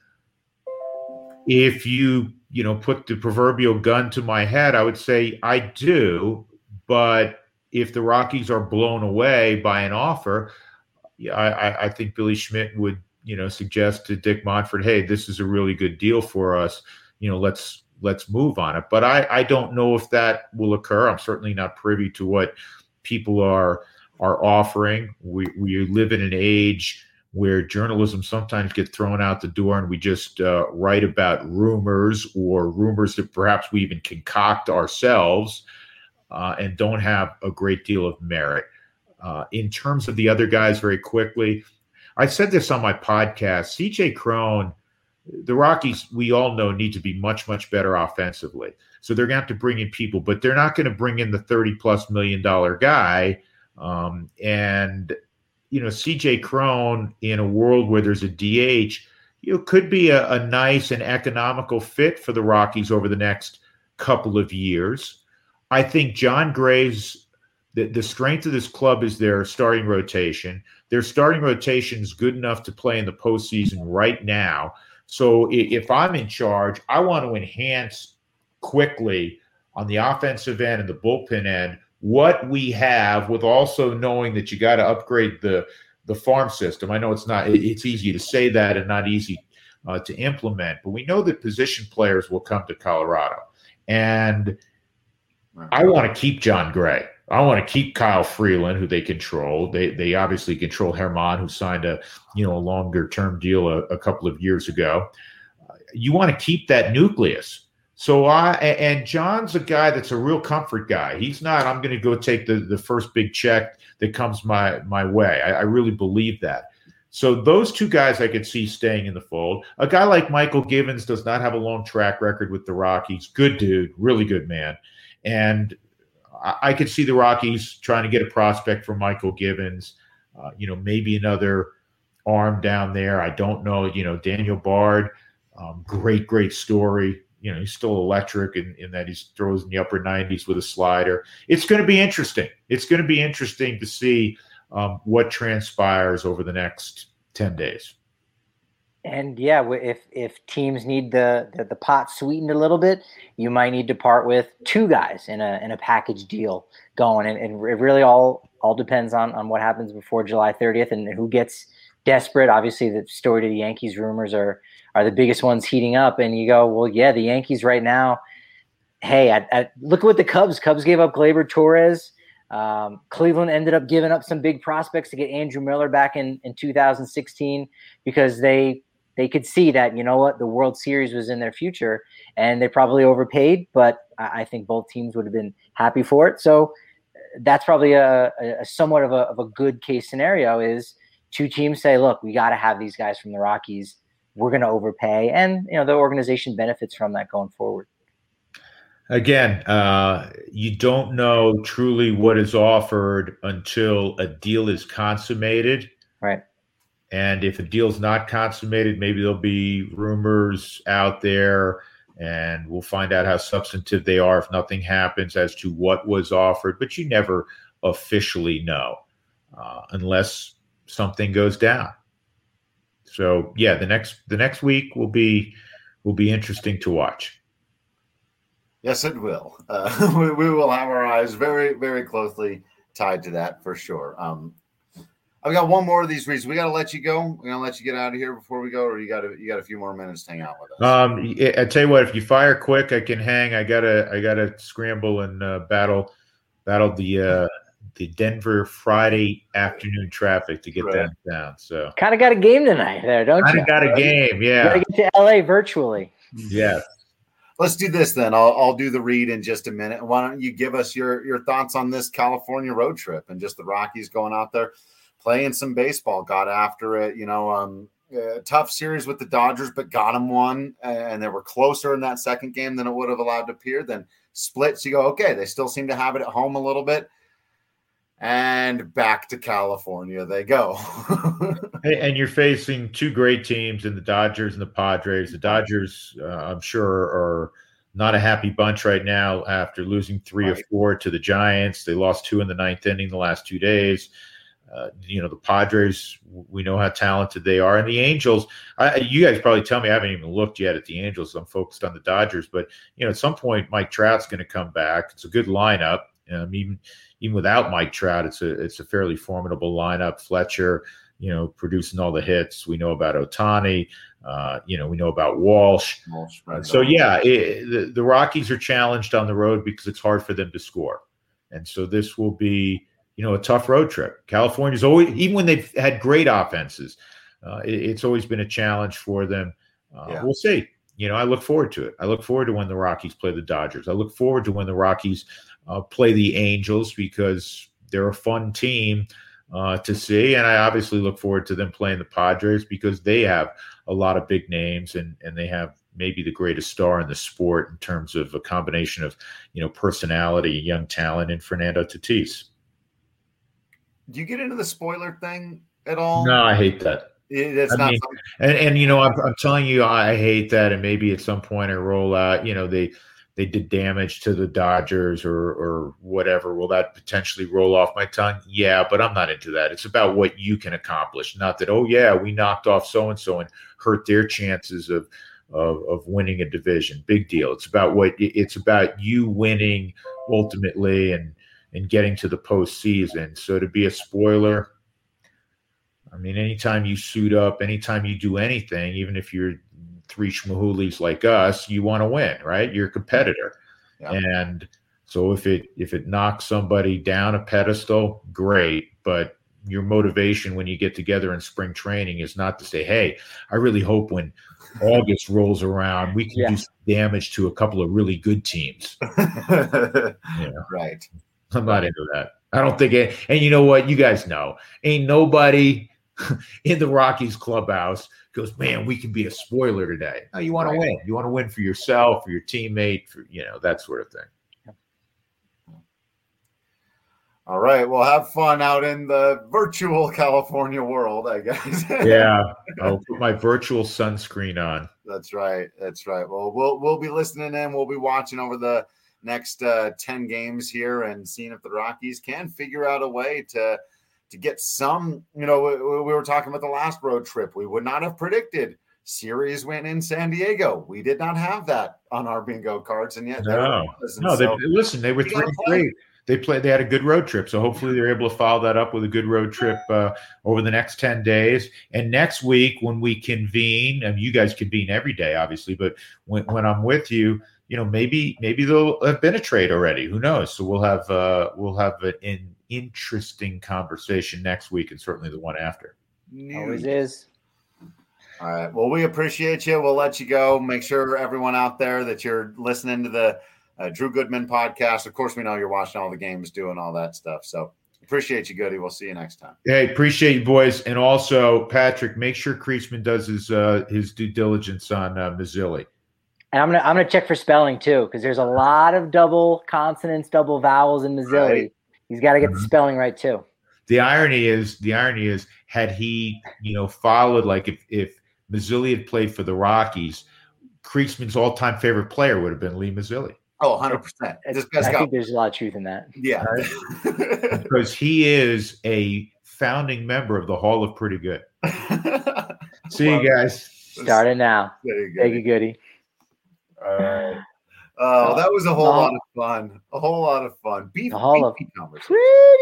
If you put the proverbial gun to my head, I would say I do. But if the Rockies are blown away by an offer, I think Billy Schmidt would, suggest to Dick Monfort, hey, this is a really good deal for us. Let's move on it. But I don't know if that will occur. I'm certainly not privy to what people are offering. We live in an age where journalism sometimes get thrown out the door, and we just write about rumors or rumors that perhaps we even concoct ourselves and don't have a great deal of merit. In terms of the other guys, very quickly, I said this on my podcast, CJ Cron, the Rockies, we all know, need to be much, much better offensively. So they're going to have to bring in people, but they're not going to bring in the $30+ million guy. CJ Cron, in a world where there's a DH, could be a nice and economical fit for the Rockies over the next couple of years. I think Jon Gray's the strength of this club is their starting rotation. Their starting rotation is good enough to play in the postseason right now. So if I'm in charge, I want to enhance quickly on the offensive end and the bullpen end what we have, with also knowing that you got to upgrade the farm system. I know it's easy to say that and not easy to implement, but we know that position players will come to Colorado. And I want to keep Jon Gray. I want to keep Kyle Freeland, who they control. They obviously control Germán, who signed a longer term deal a couple of years ago. You want to keep that nucleus. So and John's a guy that's a real comfort guy. He's not, I'm going to go take the first big check that comes my way. I really believe that. So those two guys I could see staying in the fold. A guy like Michael Givens does not have a long track record with the Rockies. Good dude, really good man. And I could see the Rockies trying to get a prospect for Michael Givens, maybe another arm down there. I don't know, Daniel Bard, great story. He's still electric in that he throws in the upper 90s with a slider. It's going to be interesting. It's going to be interesting to see what transpires over the next 10 days. And yeah, if teams need the pot sweetened a little bit, you might need to part with two guys in a package deal going. And it really all depends on what happens before July 30th and who gets desperate. Obviously, the story to the Yankees rumors are the biggest ones heating up. And you go, well, yeah, the Yankees right now. Hey, look at what the Cubs gave up Gleyber Torres. Cleveland ended up giving up some big prospects to get Andrew Miller back in 2016 because they could see that, the World Series was in their future, and they probably overpaid, but I think both teams would have been happy for it. So that's probably a somewhat of a good case scenario is two teams say, look, we got to have these guys from the Rockies. We're going to overpay. And, the organization benefits from that going forward. Again, you don't know truly what is offered until a deal is consummated. Right. And if a deal's not consummated, maybe there'll be rumors out there, and we'll find out how substantive they are if nothing happens as to what was offered. But you never officially know unless something goes down. So yeah, the next week will be interesting to watch. Yes, it will. We will have our eyes very, very closely tied to that for sure. I've got one more of these reasons. We got to let you go. We're gonna let you get out of here before we go, or you got a few more minutes to hang out with us. I tell you what, if you fire quick, I can hang. I gotta scramble and battle the Denver Friday afternoon traffic to get that down. So kind of got a game tonight there, don't you? Kind of got a game, yeah. You gotta get to LA virtually. Yeah. Let's do this then. I'll do the read in just a minute. Why don't you give us your thoughts on this California road trip and just the Rockies going out there, playing some baseball, got after it, tough series with the Dodgers, but got them one. And they were closer in that second game than it would have allowed to appear. Then splits, you go, okay, they still seem to have it at home a little bit. And back to California they go. And you're facing two great teams in the Dodgers and the Padres. The Dodgers, I'm sure, are not a happy bunch right now after losing 3 or 4 to the Giants. They lost 2 in the ninth inning the last 2 days. The Padres, we know how talented they are. And the Angels, you guys probably tell me I haven't even looked yet at the Angels. I'm focused on the Dodgers. But, at some point, Mike Trout's going to come back. It's a good lineup. Even without Mike Trout, it's a fairly formidable lineup. Fletcher, producing all the hits. We know about Ohtani. We know about Walsh. So, the Rockies are challenged on the road because it's hard for them to score. And so this will be, a tough road trip. California's always, even when they've had great offenses, it's always been a challenge for them. We'll see. I look forward to it. I look forward to when the Rockies play the Dodgers. I look forward to when the Rockies play the Angels because they're a fun team to see. And I obviously look forward to them playing the Padres because they have a lot of big names and they have maybe the greatest star in the sport in terms of a combination of, personality, young talent, and Fernando Tatis. Do you get into the spoiler thing at all? No, I hate that. It's not. Mean, and I'm telling you, I hate that. And maybe at some point I roll out, they did damage to the Dodgers or whatever. Will that potentially roll off my tongue? Yeah, but I'm not into that. It's about what you can accomplish, not that, oh yeah, we knocked off so-and-so and hurt their chances of winning a division. Big deal. It's about you winning ultimately and getting to the postseason. So to be a spoiler, I mean, anytime you suit up, anytime you do anything, even if you're three schmahoolies like us, you want to win, right? You're a competitor. Yeah. And so if it knocks somebody down a pedestal, great. But your motivation when you get together in spring training is not to say, hey, I really hope when August rolls around, we can do some damage to a couple of really good teams. Right. I'm not into that. I don't think it. And you know what? You guys know, ain't nobody in the Rockies clubhouse goes, man, we can be a spoiler today. No, you want to win. You want to win for yourself, for your teammate, for that sort of thing. All right. Well, have fun out in the virtual California world, I guess. Yeah. I'll put my virtual sunscreen on. That's right. Well, we'll be listening in. We'll be watching over the next 10 games here and seeing if the Rockies can figure out a way to get some, we were talking about the last road trip. We would not have predicted series win in San Diego. We did not have that on our bingo cards. And yet, they were 3-3. They had a good road trip. So hopefully they're able to follow that up with a good road trip over the next 10 days. And next week when we convene, and you guys convene every day, obviously, but when I'm with you, maybe there'll have been a trade already. Who knows? So we'll have an interesting conversation next week and certainly the one after. Always is. All right. Well, we appreciate you. We'll let you go. Make sure everyone out there that you're listening to the Drew Goodman podcast. Of course, we know you're watching all the games, doing all that stuff. So appreciate you, Goody. We'll see you next time. Hey, appreciate you, boys. And also, Patrick, make sure Kriesman does his due diligence on Mazzilli. And I'm gonna check for spelling too, because there's a lot of double consonants, double vowels in Mazzilli. Right. He's got to get the spelling right too. The irony is, had he, followed, like if Mazzilli had played for the Rockies, Kriesman's all-time favorite player would have been Lee Mazzilli. Oh, 100%. I think there's a lot of truth in that. Yeah. Because he is a founding member of the Hall of Pretty Good. See you guys. Starting now. Thank you, Goody. All right. Oh, that was a whole lot of fun. A whole lot of fun. Beef conversation.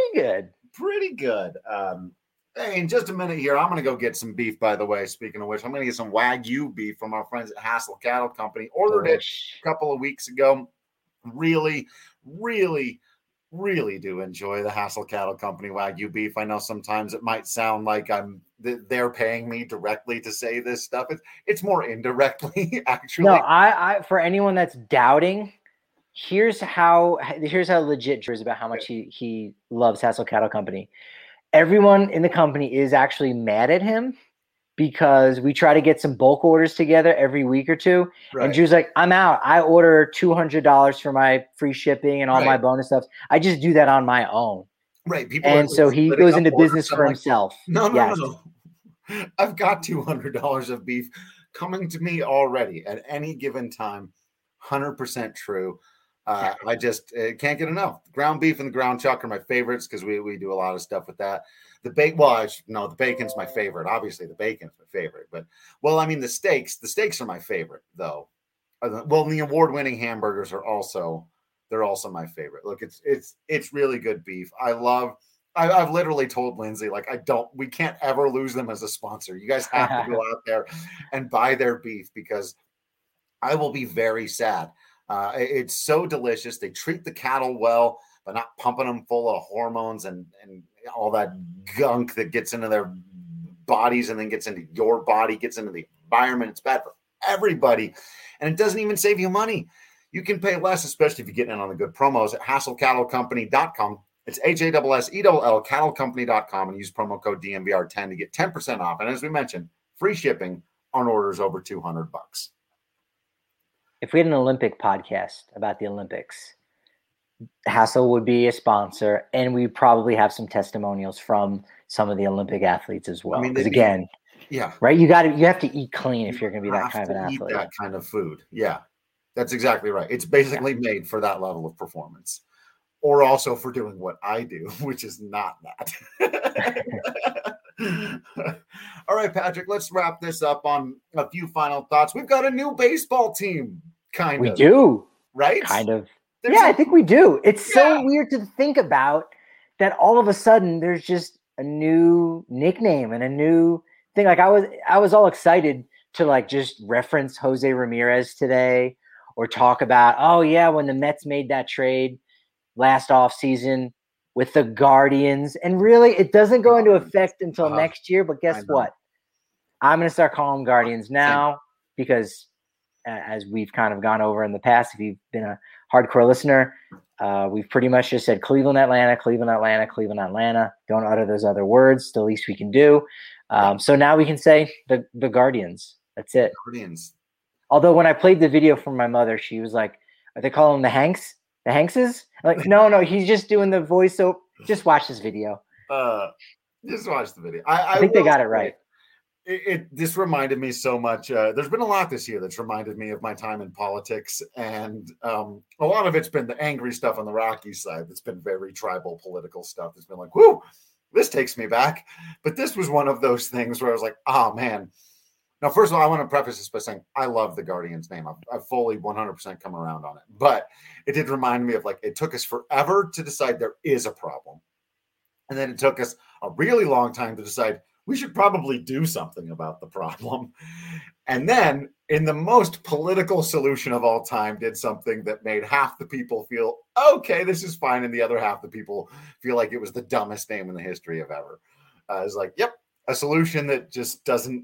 Pretty good. Hey, in just a minute here, I'm going to go get some beef, by the way. Speaking of which, I'm going to get some Wagyu beef from our friends at Hassel Cattle Company. Ordered it a couple of weeks ago. Really, really, really do enjoy the Hassel Cattle Company Wagyu beef. I know sometimes it might sound like they're paying me directly to say this stuff. It's more indirectly, actually. No, I for anyone that's doubting, here's how legit Drew is about how much he loves Hassel Cattle Company. Everyone in the company is actually mad at him because we try to get some bulk orders together every week or two. Right. And Drew's like, I'm out. I order $200 for my free shipping and all my bonus stuff. I just do that on my own. Right. And so he goes into business for himself. No. I've got $200 of beef coming to me already at any given time. 100% true. I just can't get enough. Ground beef and the ground chuck are my favorites because we do a lot of stuff with that. The bacon's my favorite. Obviously, the bacon's my favorite. But, the steaks are my favorite, though. The award-winning hamburgers are also my favorite. Look, it's really good beef. I've literally told Lindsay, we can't ever lose them as a sponsor. You guys have to go out there and buy their beef because I will be very sad. It's so delicious. They treat the cattle well, but not pumping them full of hormones and all that gunk that gets into their bodies and then gets into your body, gets into the environment. It's bad for everybody. And it doesn't even save you money. You can pay less, especially if you get in on the good promos at HassleCattleCompany.com. It's HASSELL cattlecompany.com and use promo code DNVR10 to get 10% off. And as we mentioned, free shipping on orders over $200. If we had an Olympic podcast about the Olympics, Hassel would be a sponsor, and we probably have some testimonials from some of the Olympic athletes as well. Because again, Yeah. Right. You have to eat clean if you're going to be that kind of an eat athlete. That kind of food. Yeah, that's exactly right. It's basically made for that level of performance, or also for doing what I do, which is not that. All right, Patrick, let's wrap this up on a few final thoughts. We've got a new baseball team, We do. Right? Kind of. I think we do. It's so weird to think about that all of a sudden there's just a new nickname and a new thing. Like I was all excited to like just reference Jose Ramirez today or talk about, oh yeah, when the Mets made that trade last offseason with the Guardians. And really, it doesn't go into effect until next year. But guess what? I'm going to start calling them Guardians now because, as we've kind of gone over in the past, if you've been a hardcore listener, we've pretty much just said Cleveland, Atlanta, Cleveland, Atlanta, Cleveland, Atlanta. Don't utter those other words. It's the least we can do. So now we can say the Guardians. That's it. Guardians. Although when I played the video for my mother, she was like, "Are they calling them the Hanks? The Hankses?" I'm like, no, he's just doing the voice. So just watch this video. Just watch the video. I think they got it right. This reminded me so much. There's been a lot this year that's reminded me of my time in politics, and a lot of it's been the angry stuff on the Rockies side. That's been very tribal political stuff. It's been like, whoo, this takes me back. But this was one of those things where I was like, oh man. Now, first of all, I want to preface this by saying I love the Guardians name. I've fully 100% come around on it. But it did remind me of like it took us forever to decide there is a problem. And then it took us a really long time to decide we should probably do something about the problem. And then in the most political solution of all time, did something that made half the people feel, okay, this is fine. And the other half the people feel like it was the dumbest name in the history of ever. It's like, yep, a solution that just doesn't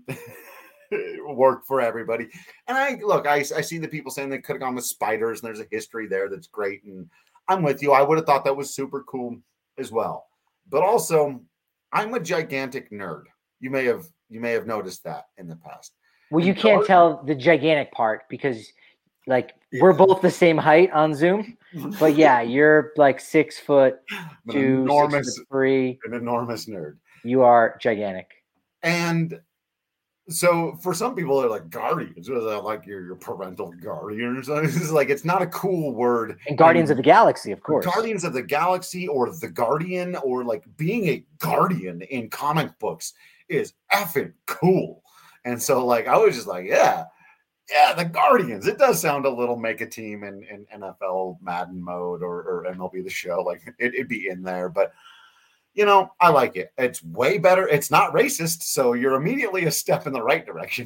work for everybody. And I see the people saying they could have gone with spiders and there's a history there that's great. And I'm with you. I would have thought that was super cool as well. But also, I'm a gigantic nerd. You may have noticed that in the past. Well, you can't tell the gigantic part because like we're both the same height on Zoom. But yeah, you're like 6 foot 2, 6 foot 3. An enormous nerd. You are gigantic. And so for some people, they're like Guardians, like your parental guardian or something. It's like it's not a cool word. And Guardians of the Galaxy, of course. Guardians of the Galaxy or the Guardian or like being a guardian in comic books is effing cool. And so like I was just like, yeah, the Guardians. It does sound a little make a team in NFL Madden mode or MLB The Show. Like it'd be in there, but. You know, I like it. It's way better. It's not racist, so you're immediately a step in the right direction.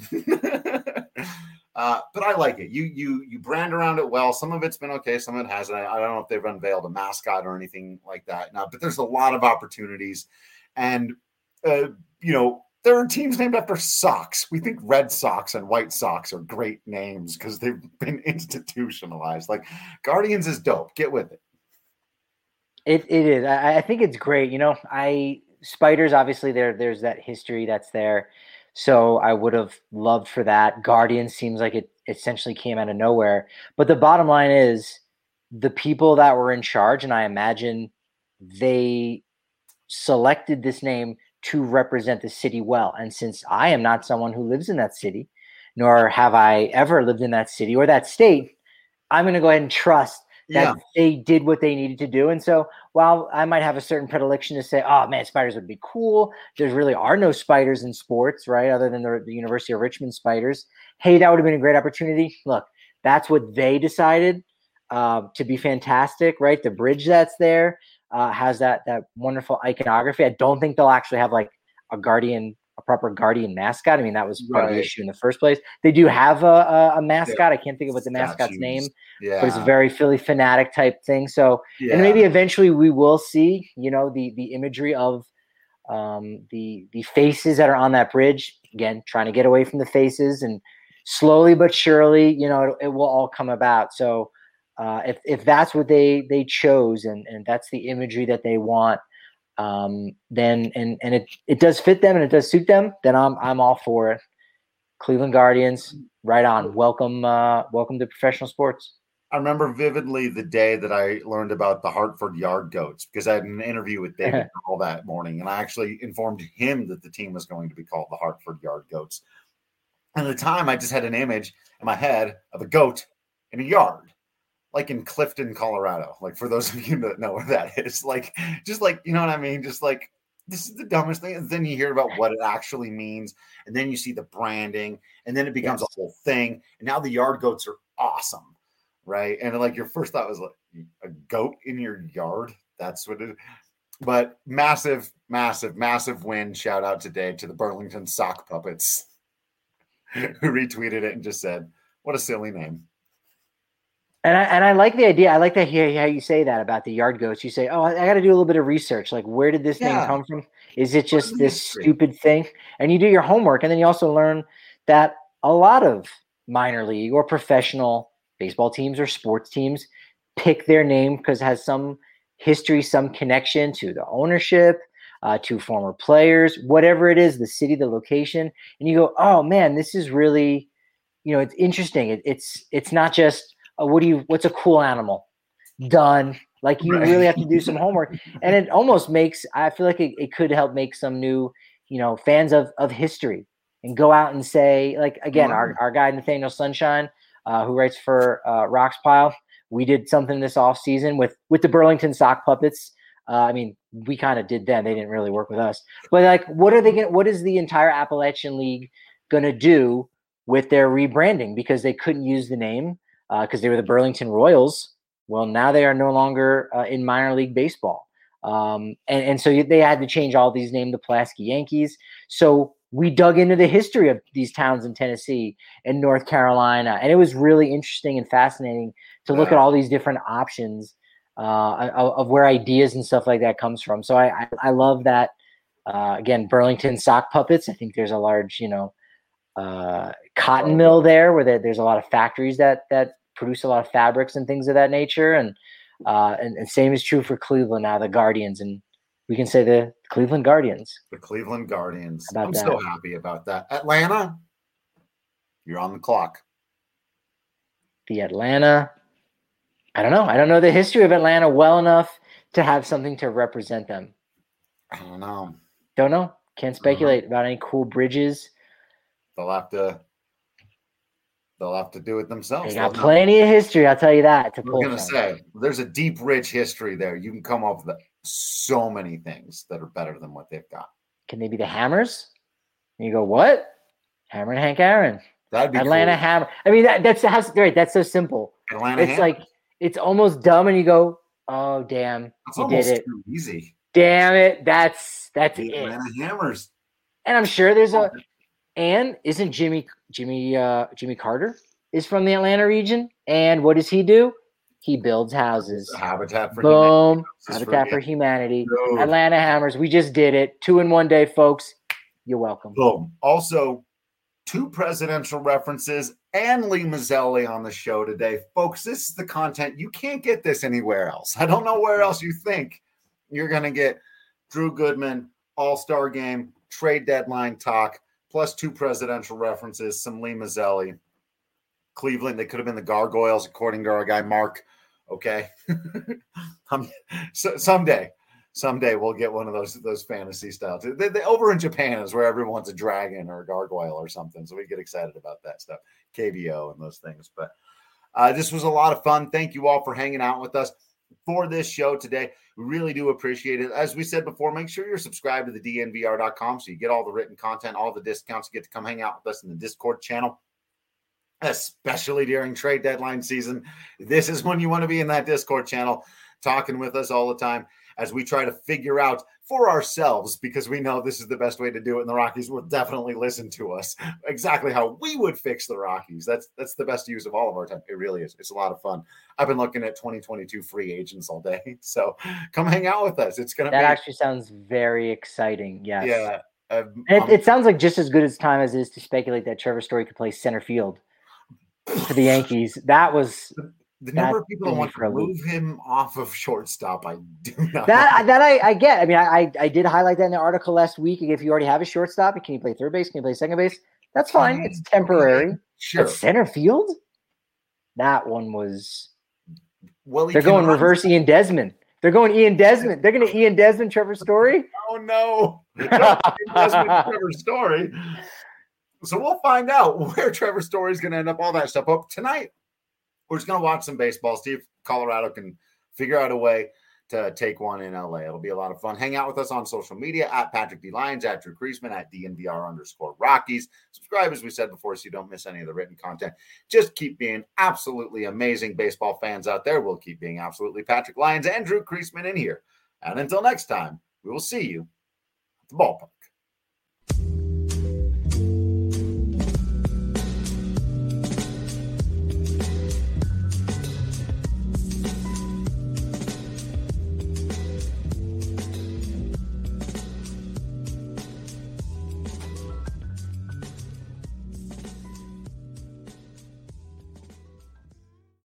But I like it. You brand around it well. Some of it's been okay. Some of it hasn't. I don't know if they've unveiled a mascot or anything like that. No, but there's a lot of opportunities. And, there are teams named after socks. We think Red Sox and White Sox are great names because they've been institutionalized. Like, Guardians is dope. Get with it. It is. I think it's great. Spiders, obviously there's that history that's there. So I would have loved for that. Guardian seems like it essentially came out of nowhere. But the bottom line is the people that were in charge, and I imagine they selected this name to represent the city well. And since I am not someone who lives in that city, nor have I ever lived in that city or that state, I'm going to go ahead and trust that they did what they needed to do. And so while I might have a certain predilection to say, oh man, spiders would be cool, there really are no spiders in sports, right? Other than the University of Richmond spiders. Hey, that would have been a great opportunity. Look, that's what they decided to be fantastic, right? The bridge that's there has that wonderful iconography. I don't think they'll actually have like a proper Guardian mascot. I mean, that was part of the issue in the first place. They do have a mascot. Yeah. I can't think of what the mascot's name, but it's a very Philly Fanatic type thing. So, and maybe eventually we will see, the imagery of the faces that are on that bridge. Again, trying to get away from the faces, and slowly but surely, it will all come about. So, if that's what they chose, and that's the imagery that they want, then it does fit them and it does suit them, then I'm all for it. Cleveland Guardians, right on. Welcome to professional sports. I remember vividly the day that I learned about the Hartford Yard Goats because I had an interview with David all that morning, and I actually informed him that the team was going to be called the Hartford Yard Goats. And at the time, I just had an image in my head of a goat in a yard, like in Clifton, Colorado. Like for those of you that know where that is, like just like you know what I mean, just like. This is the dumbest thing. And then you hear about what it actually means. And then you see the branding. And then it becomes a whole thing. And now the yard goats are awesome. Right. And like your first thought was like a goat in your yard. That's what it is. But massive, massive, massive win. Shout out today to the Burlington Sock Puppets who retweeted it and just said, what a silly name. And I like the idea. I like to hear how you say that about the yard goats. You say, oh, I got to do a little bit of research. Like, where did this name come from? Is it just this stupid thing? And you do your homework. And then you also learn that a lot of minor league or professional baseball teams or sports teams pick their name because it has some history, some connection to the ownership, to former players, whatever it is, the city, the location. And you go, oh, man, this is really, it's interesting. It's not just, what's a cool animal? Done. Like you really have to do some homework. And it almost I feel like it could help make some new, fans of history and go out and say, like, again, our guy, Nathaniel Sunshine, who writes for Rocks Pile, we did something this off season with the Burlington Sock Puppets. I mean, we kind of did them. They didn't really work with us, but like, what is the entire Appalachian League going to do with their rebranding? Because they couldn't use the name. Because they were the Burlington Royals. Well, now they are no longer in minor league baseball. And so they had to change all these names, the Pulaski Yankees. So we dug into the history of these towns in Tennessee and North Carolina. And it was really interesting and fascinating to look at all these different options of where ideas and stuff like that comes from. So I love that. Again, Burlington Sock Puppets. I think there's a large, cotton mill there where there's a lot of factories that produce a lot of fabrics and things of that nature. And same is true for Cleveland now, the Guardians. And we can say the Cleveland Guardians. The Cleveland Guardians. I'm so happy about that. Atlanta, you're on the clock. The Atlanta. I don't know. I don't know the history of Atlanta well enough to have something to represent them. I don't know. Don't know. Can't speculate about any cool bridges. They'll have to do it themselves. They got plenty of history, I'll tell you that. I'm going to say, there's a deep, rich history there. You can come up with so many things that are better than what they've got. Can they be the Hammers? And you go, what? Hammer and Hank Aaron. That'd be Atlanta cool. Hammer. I mean, that's right. That's so simple. Atlanta it's Hammer. Like, it's almost dumb, and you go, oh, damn, you did it. Too easy. Damn it. That's the it. Atlanta Hammers. And I'm sure there's and isn't Jimmy Carter is from the Atlanta region? And what does he do? He builds houses. Habitat for Boom. Habitat for Humanity. Dude. Atlanta Hammers. We just did it. 2 in 1 day, folks. You're welcome. Boom. Also, 2 presidential references and Lee Mazzelli on the show today. Folks, this is the content. You can't get this anywhere else. I don't know where else you think you're going to get Drew Goodman, All-Star Game, trade deadline talk, plus 2 presidential references, some Lee Mazzelli. Cleveland, they could have been the Gargoyles, according to our guy Mark. Okay. So someday we'll get one of those fantasy styles. They over in Japan is where everyone's a dragon or a gargoyle or something. So we get excited about that stuff. KVO and those things. But this was a lot of fun. Thank you all for hanging out with us for this show today. We really do appreciate it. As we said before, make sure you're subscribed to the DNVR.com so you get all the written content, all the discounts. You get to come hang out with us in the Discord channel, especially during trade deadline season. This is when you want to be in that Discord channel talking with us all the time as we try to figure out for ourselves, because we know this is the best way to do it, and the Rockies will definitely listen to us, exactly how we would fix the Rockies. That's the best use of all of our time. It really is. It's a lot of fun. I've been looking at 2022 free agents all day, so come hang out with us. It's going to be... That actually sounds very exciting, yes. Yeah. It sounds like just as good as time as it is to speculate that Trevor Story could play center field for the Yankees. That was... The number of people that want to move him off of shortstop, I do not. That I get. I mean, I did highlight that in the article last week. If you already have a shortstop, can you play third base? Can you play second base? That's fine. It's temporary. Sure. But center field? That one was Well, they're going reverse Ian Desmond. They're going Ian Desmond. They're going to Ian Desmond Trevor Story. Oh no, Trevor Story. So we'll find out where Trevor Story is going to end up. All that stuff. But tonight, we're just going to watch some baseball. See if Colorado can figure out a way to take one in LA. It'll be a lot of fun. Hang out with us on social media at Patrick D. Lyons, at Drew Creasman, at DNVR_Rockies. Subscribe, as we said before, so you don't miss any of the written content. Just keep being absolutely amazing baseball fans out there. We'll keep being absolutely Patrick Lyons and Drew Creasman in here. And until next time, we will see you at the ballpark.